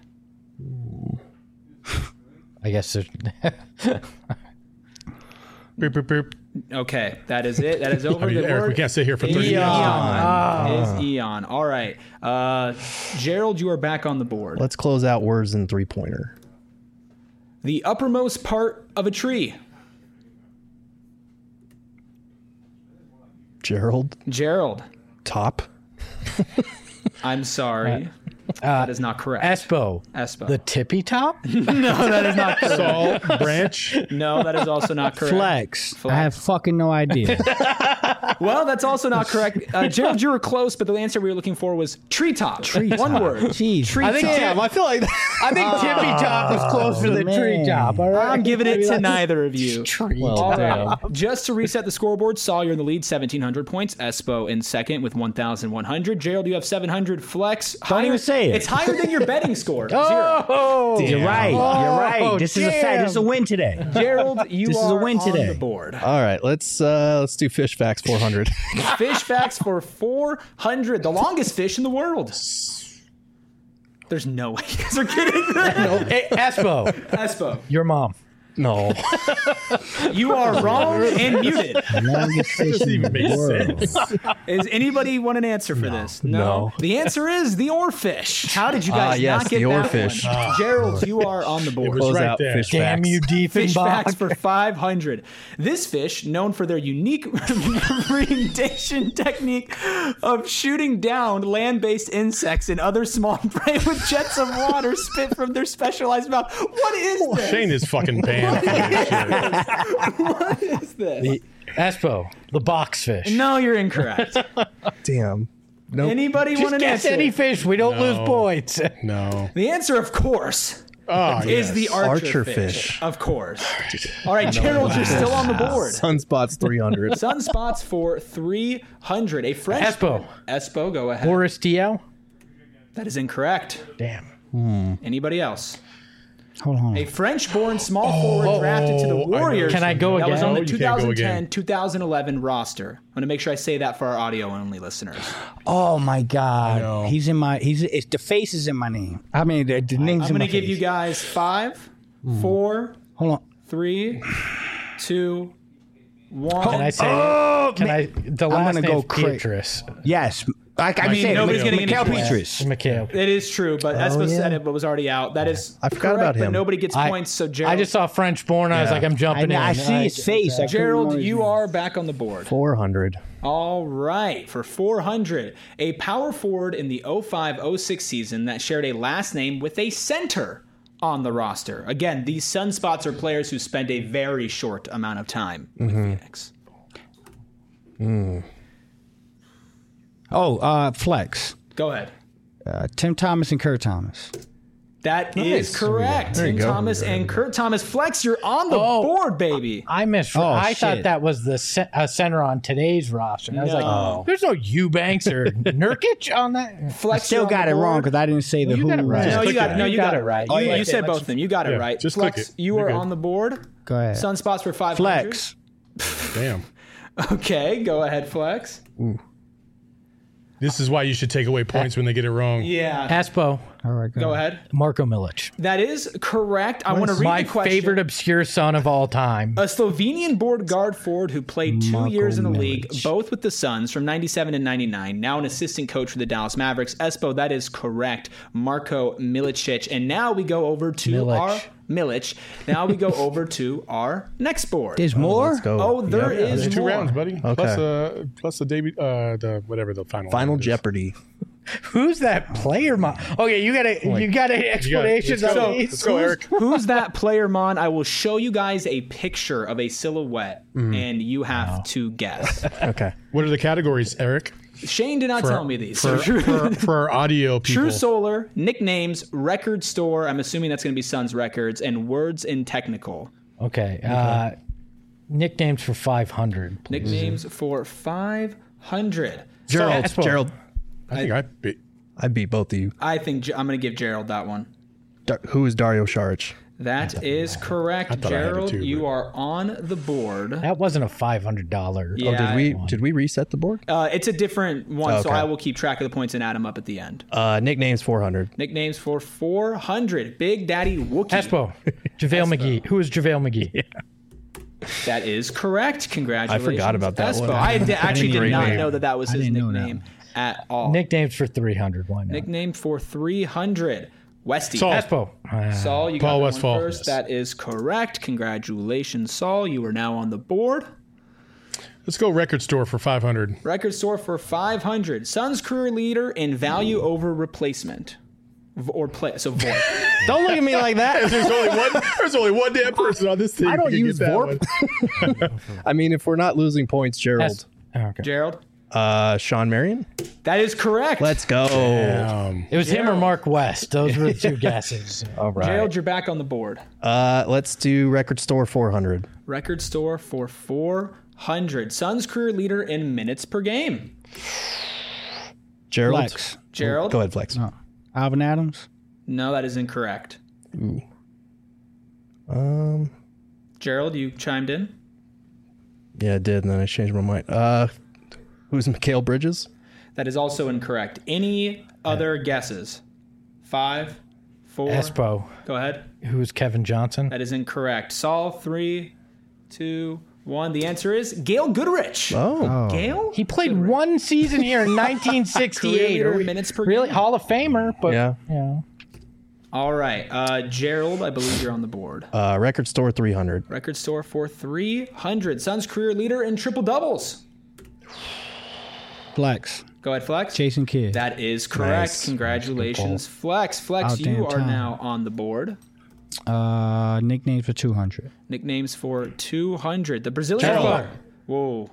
I guess. Boop, boop, boop. Okay, that is it. That is over. I mean, The Eric, word we can't sit here for 30 minutes. Is eon. All right. Gerald, you are back on the board. Let's close out words in 3-pointer. The uppermost part of a tree. Gerald. Top. I'm sorry. That is not correct. Espo. Espo. The tippy top? No, that is not correct. Saul, branch. No, that is also not correct. Flex. I have fucking no idea. Well, that's also not correct. Gerald, you were close, but the answer we were looking for was treetop. One word. Jeez. I think I feel like I think tippy top was closer to the man. tree top. All right. I'm giving it to neither of you. well, damn. Just to reset the scoreboard, Saul, you're in the lead, 1,700 points. Espo in second with 1,100. Gerald, you have 700. Flex. Don't even say it. It's higher than your betting score. Zero. Oh, You're right. You're right. This is a fact. This is a win today. Gerald, you This is a are win on today. the board. All right, let's do fish facts 400. Fish facts for 400. The longest fish in the world. There's no way you guys are kidding. Hey, Espo, Espo, your mom. No. you are wrong and muted. Longest fish in even the make world. Is anybody want an answer for this? No. The answer is the oarfish. How did you guys yes, not get the that oarfish. one? Gerald, you are on the board. was Close right out there. fish Damn facts. you, Fish facts Diefenbach. for 500. This fish, known for their unique predation technique of shooting down land-based insects and other small prey with jets of water spit from their specialized mouth. What is this? Shane is fucking banned for this shit. What is this? Espo, the boxfish. No, you're incorrect. Damn. Nope. Anybody want Just an guess answer? any fish. We don't lose points. No. The answer, of course, Oh, is yes. the archer, Archer fish. fish. Of course. All right, Gerald, you're still on the board. Sunspots 300. Sunspots for 300. A French. Espo. Espo, go ahead. Boris Diaw. That is incorrect. Damn. Anybody else? Hold on. A French-born small forward drafted to the Warriors. Can I go That was on the again? No, you can't go 2010-2011 roster. I'm going to make sure I say that for our audio-only listeners. Oh my God. He's in my. It's the face is in my name. I mean the name's I'm in going my to give face. you guys 5, 4, Hold on. 3, 2, 1. Can I say? Can I? The last gonna name go is cra- Beatrice. Yes. I mean, said nobody's getting any Mikhail points. Petrus. Mikhail. It is true, but Espo said it, but was already out. That is I forgot correct, about but him. nobody gets points. So Gerald, I just saw French born. I was Yeah. like, I'm jumping in. I see his face. I couldn't Gerald, remember his you name. are back on the board. 400. All right, for 400, a power forward in the 05-06 season that shared a last name with a center on the roster. Again, these sunspots are players who spent a very short amount of time with Phoenix. Flex. Go ahead. Tim Thomas and Kurt Thomas. That is correct. Tim go. Thomas and Kurt Thomas. Flex, you're on the board, baby. I missed. Oh, I thought shit. that was the center on today's roster. And I was No. like, there's no Eubanks or Nurkic on that. Flex, Still you're on got the it wrong board. because I didn't say the you who. got it right. No, you click got it. it. No, you got it right. Oh, You yeah. said both of them. You got it Yeah, right. just Flex, click it. you You're are good. on the board. Go ahead. Sunspots for 500. Flex. Damn. Okay, go ahead, Flex. This is why you should take away points when they get it wrong. Yeah. Aspo, All right, Go ahead. Marko Milic. That is correct. I want to read My the question. favorite obscure son of all time. A Slovenian board guard forward who played 2 Marko years in the Milic. league, both with the Suns from 97 and 99. Now an assistant coach for the Dallas Mavericks. Espo, that is correct. Marko Milicic. And now we go over to Milic. Now we go over to our next board. There's more? Let's go. Oh, there Yep. is There's 2 more. rounds, buddy. Okay. Plus the debut, the whatever the final. Final round is. Jeopardy. Who's that player? Okay, you got explanations Let's go. on these. Let's go, Eric. Who's that player, Mon? I will show you guys a picture of a silhouette, and you have to guess. Okay. What are the categories, Eric? Shane did not tell me these. For our audio people. True Solar, nicknames, record store. I'm assuming that's going to be Suns Records, and words in technical. Okay. Nicknames for 500. Please. Nicknames for 500. Gerald. Espo. Gerald. I think I beat both of you. I think I'm going to give Gerald that one. Who is Dario Saric? That is correct, thought I had it Gerald. too, You but- are on the board. That wasn't a $500. Yeah. Did we reset the board? It's a different one, so Okay. I will keep track of the points and add them up at the end. Nicknames 400. Nicknames for 400. Big Daddy Wookie. Espo. JaVale McGee. Who is JaVale McGee? That is correct. Congratulations. I forgot about that Espo. one. I actually did Great not name. know that was I his didn't know nickname at all. Nicknames for 300. Why not? Nickname for 300. Westy. Saul. Espo. Saul, you got Paul that Westphal. one first. That is correct. Congratulations, Saul. You are now on the board. Let's go record store for 500. Record store for 500. Suns career leader in value over replacement. So VORP. Don't look at me like that. There's only one damn person on this team. I don't who can use get that VORP. one. I mean, if we're not losing points, Gerald. Okay. Gerald? Sean Marion. That is correct. Let's go. It was him or Mark West. Those were the two guesses. All right. Gerald, you're back on the board. Let's do record store 400. Record store for 400. Suns career leader in minutes per game. Gerald. Flex. Gerald? Go ahead, Flex. Alvin Adams. No, that is incorrect. Ooh. Gerald, you chimed in. Yeah, I did, and then I changed my mind. Who's Mikal Bridges? That is also incorrect. Any other guesses? 5, 4. Espo. Go ahead. Who is Kevin Johnson? That is incorrect. Saul, 3, 2, 1. The answer is Gail Goodrich. Oh. Gail? He played one season here in 1968. Career leader Are we- minutes per really game. Hall of Famer, but Yeah. All right. Gerald, I believe you're on the board. Record store 300. Record store for 300. Suns career leader in triple doubles. Flex. Go ahead, Flex. Jason Kidd. That is correct. Nice. Congratulations, Flex. Flex, About you damn are time. now on the board. Nicknames for 200. Nicknames for 200. The Brazilian. Gerald. Whoa.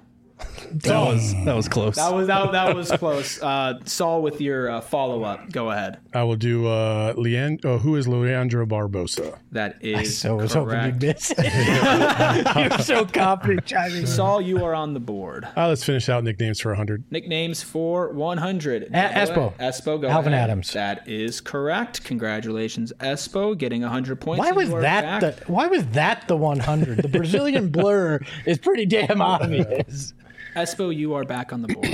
That was close. That was close. Saul, with your follow up, go ahead. I will do who is Leandro Barbosa? That is so I was hoping correct. you'd miss. You were so confident chiming in. Saul, you are on the board. Let's finish out nicknames for 100. Nicknames for 100. Espo. Espo, go Alvin ahead. Adams. That is correct. Congratulations, Espo, getting 100 points. Why and was you are that back. the 100? The Brazilian blur is pretty damn obvious. Espo, you are back on the board.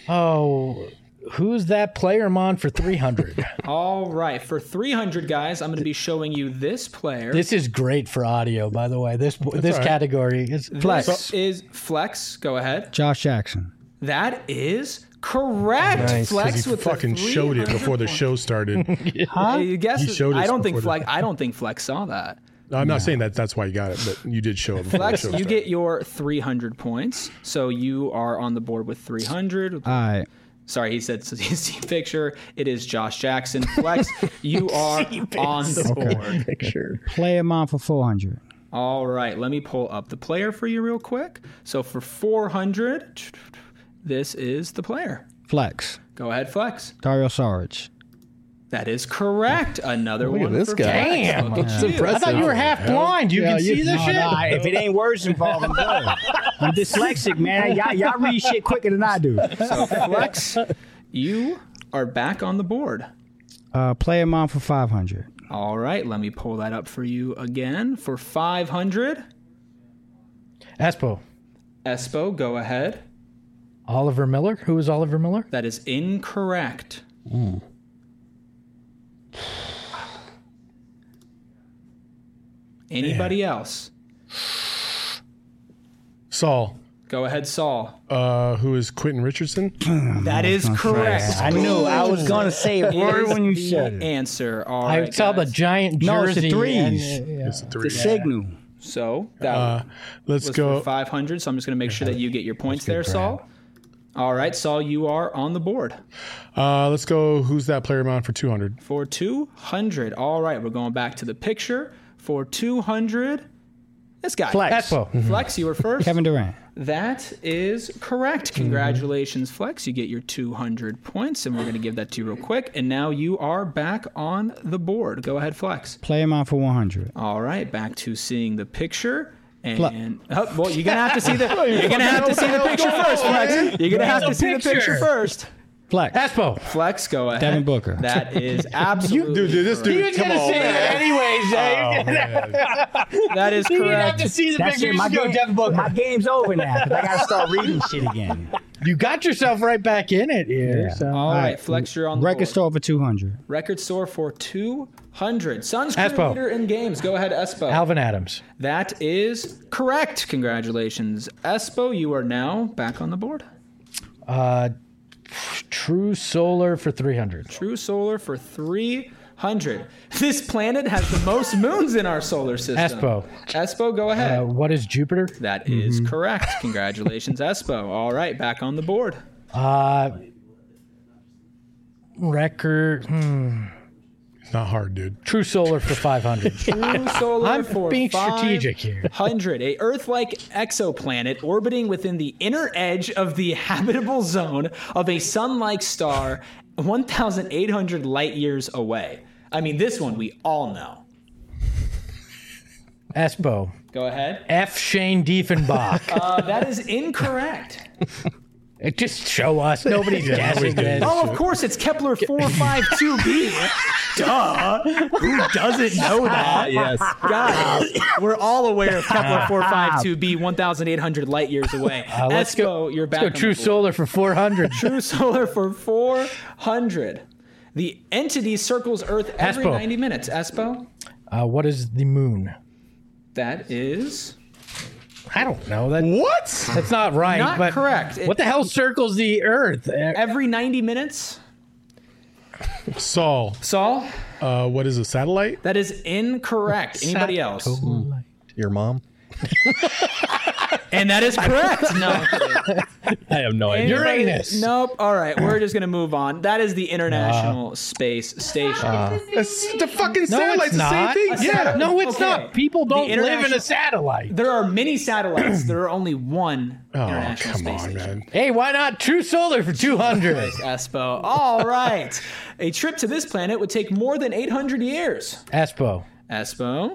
Oh, who's that player, Mon, for 300? All right. For 300, guys, I'm going to be showing you this player. This is great for audio, by the way. This all right. category is Flex. This is Flex. Go ahead. Josh Jackson. That is correct. Nice, 'cause Flex He with fucking the showed it 300 before the points. show started. I guess He showed us I don't think before Flex. I don't think Flex saw that. No, I'm not saying that's why you got it, but you did show it before Flex, the show you started. get your 300 points, so you are on the board with 300. All right. Sorry, he said see picture. It is Josh Jackson. Flex, you are on the board. Picture. Play him on for 400. All right, let me pull up the player for you real quick. So for 400, this is the player. Flex. Go ahead, Flex. Dario Saric. That is correct. Another Look at one this for guy. Flex. Damn. Look at you. impressive. I thought you were half blind. You can see this shit. if it ain't words involved, I'm good. I'm dyslexic, man. Y'all read shit quicker than I do. So Flex, you are back on the board. Play him on for 500. All right, let me pull that up for you again. For 500, Espo. Espo, go ahead. Oliver Miller. Who is Oliver Miller? That is incorrect. Anybody else? Saul. Go ahead, Saul. Who is Quentin Richardson? That is correct. I knew I was going to say a word when you The said it. answer. All I right, saw the guys. giant No, it's jersey. the threes. It's a The three. signal. So that Let's was go. for 500. So I'm just going to make sure that you get your points there, Saul. All right, Saul, you are on the board. Let's go. Who's that player amount for 200? For 200. All right, we're going back to the picture. For 200, this guy. Flex. Espo. Flex, you were first. Kevin Durant. That is correct. Congratulations, Flex. You get your 200 points, and we're going to give that to you real quick. And now you are back on the board. Go ahead, Flex. Play him out for 100. All right, back to seeing the picture. Fle- And well, you're gonna have to see the picture first, Flex. You're gonna have to see the picture first. Flex. Espo. Flex, go ahead. Devin Booker. That is absolutely Dude, this dude. He's Come gonna on, say man. it anyways. Oh, man. That is You didn't have correct. to see the That's picture. it. You My, just go game, Devin Booker. my game's over now because I got to start reading shit again. You got yourself right back in it here. Yeah. So. All right, Flex, you're on the Record board. store for 200. Record store for 200. Suns crew Espo. leader in games. Go ahead, Espo. Alvin Adams. That is correct. Congratulations, Espo. You are now back on the board. True Solar for 300. True Solar for 300. This planet has the most moons in our solar system. Espo. Espo, go ahead. What is Jupiter? That is correct. Congratulations, Espo. All right, back on the board. Record. It's not hard, dude. True Solar for 500. True Solar I'm for being strategic here. 500. A Earth-like exoplanet orbiting within the inner edge of the habitable zone of a sun-like star 1,800 light years away. I mean, this one we all know. Espo. Go ahead. F. Shane Diefenbach. That is incorrect. Just show us. Nobody's guessing this. Oh, of course, it's Kepler 452b. Duh. Who doesn't know that? Yes. Guys, we're all aware of Kepler 452b, 1,800 light years away. Let's Espo, go. you're back. Let's go True Solar for 400. True Solar for 400. The entity circles Earth every Espo. 90 minutes. Espo? What is the moon? That is I don't know. That What? That's not right. not but correct. What the hell circles the Earth? Every 90 minutes. Saul. Saul? What is a satellite? That is incorrect. Anybody else? Your mom? And that is correct. No. I have no idea. Uranus. Nope. All right. We're just going to move on. That is the International Space Station. It's the fucking No, satellite's it's the same not. thing. A Yeah. satellite- No, it's Okay. not. People don't live in international- a satellite. There are many satellites. There are only one Oh, International come Space on, Station. man. Hey, why not True Solar for 200? Espo. All right. A trip to this planet would take more than 800 years. Espo. Espo.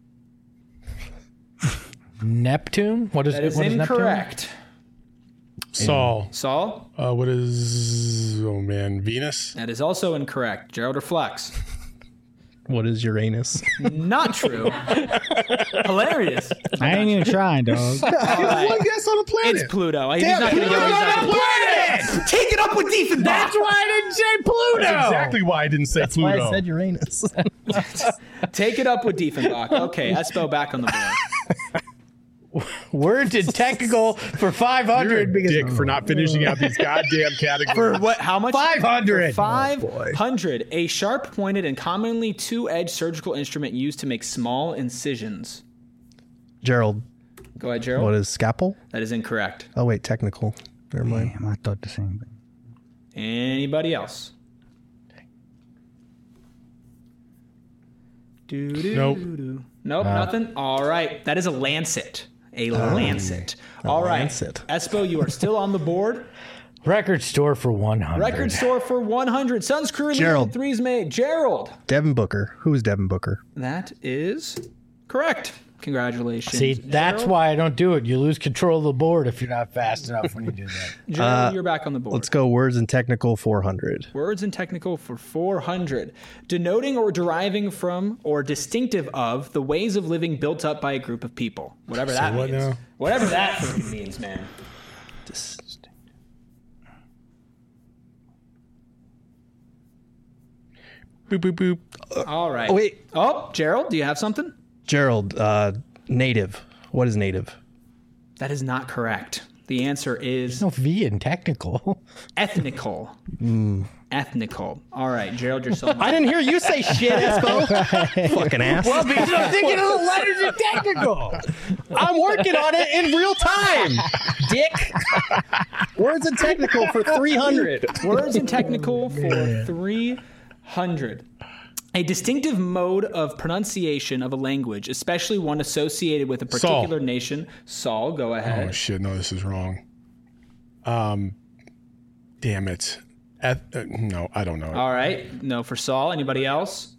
Neptune? What is That is what is Neptune? incorrect. Saul. Saul. What is, oh man, Venus? That is also incorrect. Gerald or Flex. What is Uranus? Not true. Hilarious. I ain't even trying, dog. One guess on the planet. It's Pluto. He's not going to go. He's not gonna- Take it up with Diefenbach. That's why I didn't say Pluto. That's exactly why I didn't say Pluto. I said Uranus. Take it up with Diefenbach. Okay, Espo back on the board. Words in technical for 500 You're a because dick for not finishing out these goddamn categories. For what? How much? 500. 500. A sharp-pointed and commonly two-edged surgical instrument used to make small incisions. Gerald, Go ahead, Gerald. what is scalpel? That is incorrect. Oh, wait, technical. Never mind. Damn, I thought the same thing. Anybody else? Nope. Nope, nothing. All right. That is a lancet. A lancet. All right. lancet. Espo, you are still on the board. record store for 100. Record store for 100. Suns crew leading Gerald. threes made. Gerald. Devin Booker. Who is Devin Booker? That is correct. Congratulations. See, that's why I don't do it. You lose control of the board if you're not fast enough when you do that. Gerald, you're back on the board. Let's go words and technical 400. Words and technical for 400. Denoting or deriving from or distinctive of the ways of living built up by a group of people. Whatever that what means. now? Whatever that freaking means, man. Boop, boop, boop. All right. Oh, wait. Oh, Gerald, do you have something? Gerald, native. What is native? That is not correct. The answer is No V in technical. ethnical. Ethnical. All right, Gerald, you're so I didn't hear you say shit, Espo. Fucking ass. Well, because I'm thinking of the letters in technical. I'm working on it in real time, dick. Words and technical for 300. Words in technical for 300. A distinctive mode of pronunciation of a language, especially one associated with a particular nation. Saul, go ahead. Oh shit! No, this is wrong. Damn it. No, I don't know. All right. No for Saul. Anybody else?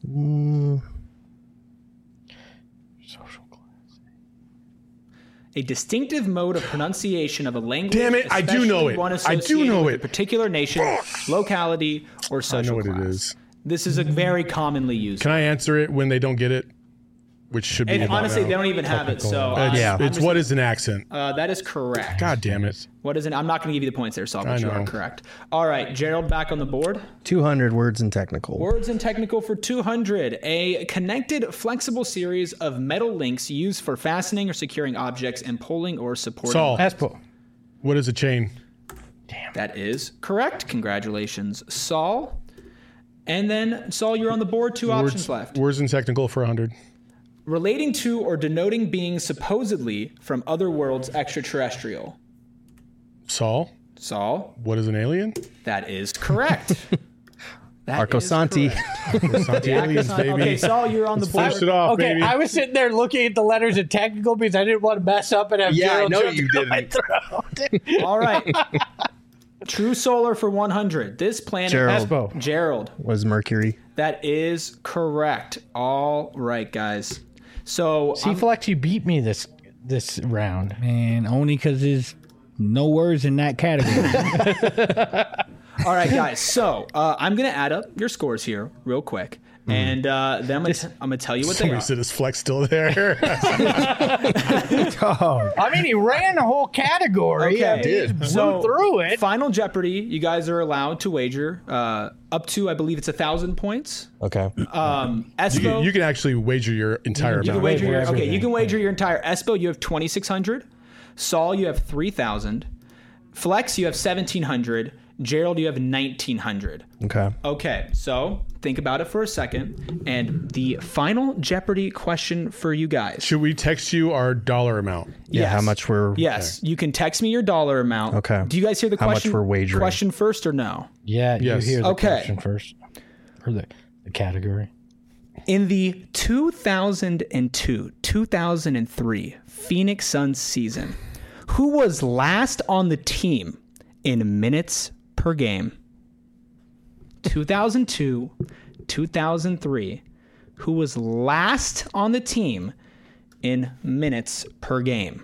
Social class. A distinctive mode of pronunciation of a language. Damn it, I do know especially it. One I do associated know with it. A particular nation, locality, or I social know what class. it is. This is a very commonly used. Can I answer it when they don't get it? Which should be. And about honestly, now. they don't even have it. So It's what is an accent? that is correct. God damn it! What is it? I'm not going to give you the points there, Saul, but I you are know. correct. All right, Gerald, back on the board. 200 words and technical. Words and technical for 200. A connected, flexible series of metal links used for fastening or securing objects and pulling or supporting. Saul, Espo. what is a chain? That is correct. Congratulations, Saul. And then, Saul, you're on the board. Two options left. Words and technical for 100. Relating to or denoting beings supposedly from other worlds extraterrestrial. Saul, Saul, what is an alien? that is correct. That Arco is Santi. correct. Santi aliens, baby. Okay, Saul, you're on the board. Finish it off, Okay, baby. I was sitting there looking at the letters in technical because I didn't want to mess up and have Yeah, I Gerald know jump you down my didn't. throat. All right. True Solar for 100. This planet. Gerald. Espo. Gerald. Was Mercury. That is correct. All right, guys. So C-Flex, you beat me this round. Man, only because there's no words in that category. all right, guys. So I'm gonna add up your scores here real quick, and then I'm gonna tell you what they Somebody are. said, is Flex still there? I mean, he ran the whole category. Okay. I mean, he blew So, through it. Final Jeopardy. You guys are allowed to wager up to, I believe it's 1,000 points. Okay. Espo, you can actually wager your entire you amount. can wager your everything. you can wager your entire. Espo, you have 2,600. Saul, you have 3,000. Flex, you have 1,700. Gerald, you have 1,900. Okay. Okay, so think about it for a second. And the final Jeopardy question for you guys. Should we text you our dollar amount? Yeah, Yes. how much we're... Yes, you can text me your dollar amount. Okay. Do you guys hear the How much question? we're wagering. Question first or no? Yeah, Yes. you hear the Okay. question first. Or the category. In the 2002-2003 Phoenix Suns season, who was last on the team in minutes per game? 2002-2003, who was last on the team in minutes per game?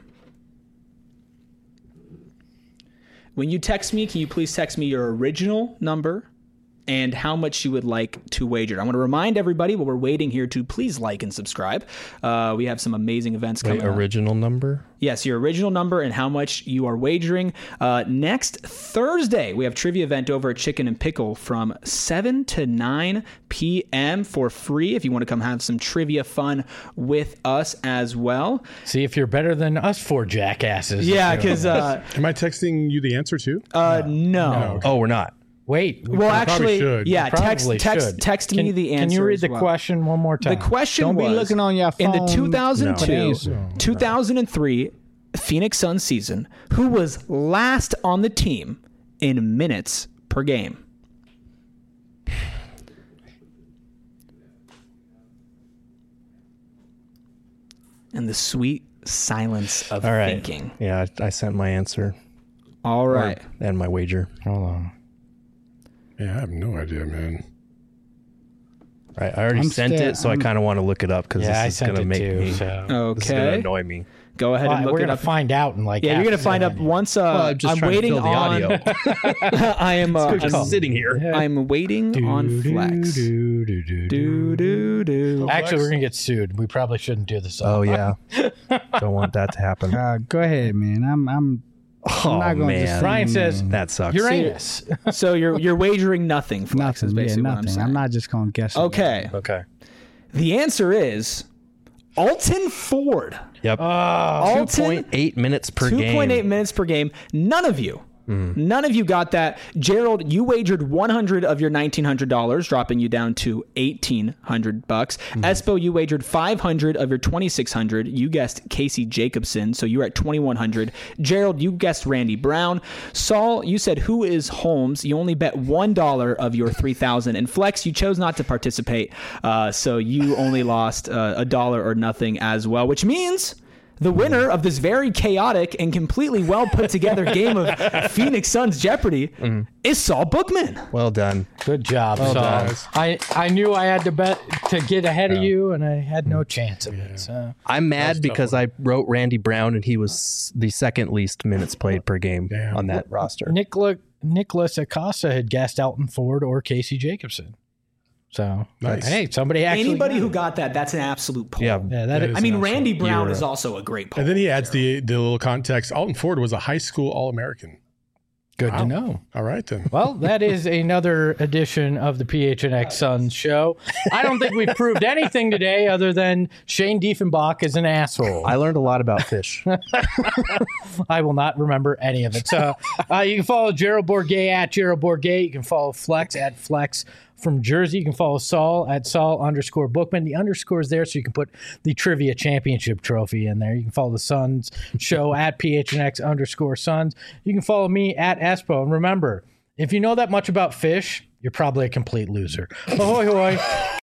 When you text me, can you please text me your original number and how much you would like to wager? I want to remind everybody while we're waiting here to please like and subscribe. We have some amazing events coming up. Original number? Yes, your original number and how much you are wagering. Next Thursday, we have trivia event over at Chicken and Pickle from 7 to 9 p.m. for free if you want to come have some trivia fun with us as well. See if you're better than us four jackasses. Yeah, because Am I texting you the answer too? no. Oh, we're not. Wait. Well, probably actually, should. yeah, probably should. text me the answer. Can you read as the well. question one more time? The question Don't was, be looking on your in the phone. 2002, No. 2003 Phoenix Suns season, who was last on the team in minutes per game? And the sweet silence of All right. thinking. Yeah, I sent my answer All right. and my wager. Hold on. Yeah, I have no idea, man. Right, I already I'm sent still- it, so I kind of want to look it up because Yeah, I this is sent going to it make too. me. So. This is going to Okay. annoy me. Go ahead and look We're it gonna up. find out in like. Yeah, you're half gonna a find out second. once. I'm just I'm trying waiting to fill the on. audio. I am. I'm I'm, sitting here. I'm waiting on Flex. Do, do, do, do, Do do do. Actually, we're gonna get sued. We probably shouldn't do this. Oh yeah, don't want that to happen. Go ahead, man. I'm Oh, not gonna man. just- Brian says That sucks. Uranus. So you're wagering nothing, Flex, is Nothing. Yeah, basically what I'm nothing. saying. I'm not just gonna guess. Okay. Okay. The answer is Alton Ford. Yep. Alton, 2.8 minutes per game. 2.8 minutes per game. None of you got that. Gerald, you wagered $100 of your $1,900, dropping you down to $1,800. Espo, you wagered $500 of your $2,600. You guessed Casey Jacobson, so you're at $2,100. Gerald, you guessed Randy Brown. Saul, you said who is Holmes? You only bet $1 of your $3,000. And Flex, you chose not to participate, so you only lost $1 or nothing as well, which means the winner of this very chaotic and completely well put together game of Phoenix Suns Jeopardy is Saul Bookman. Well done. Good job, Saul. done. I knew I had to bet to get ahead of you, and I had no chance of it. So. I'm mad because I wrote Randy Brown and he was the second least minutes played per game on that roster. Nicholas Acosta had guessed Alton Ford or Casey Jacobson. So, Nice. Hey, somebody actually. Anybody got who it. got that's an absolute pull. Yeah. Yeah, That is I mean, an Randy absolute- Brown is also a great pull. And then he adds the little context. Alton Ford was a high school All-American. Good Wow. to know. All right, then. Well, that is another edition of the PHNX Suns show. I don't think we've proved anything today other than Shane Diefenbach is an asshole. I learned a lot about fish. I will not remember any of it. So you can follow Gerald Bourguet at Gerald Bourguet. You can follow Flex at Flex from Jersey. You can follow Saul at Saul_Bookman. The underscore is there so you can put the Trivia Championship trophy in there. You can follow the Suns show at PHNX_Suns. You can follow me at Espo. And remember, if you know that much about fish, you're probably a complete loser. Ahoy, hoy.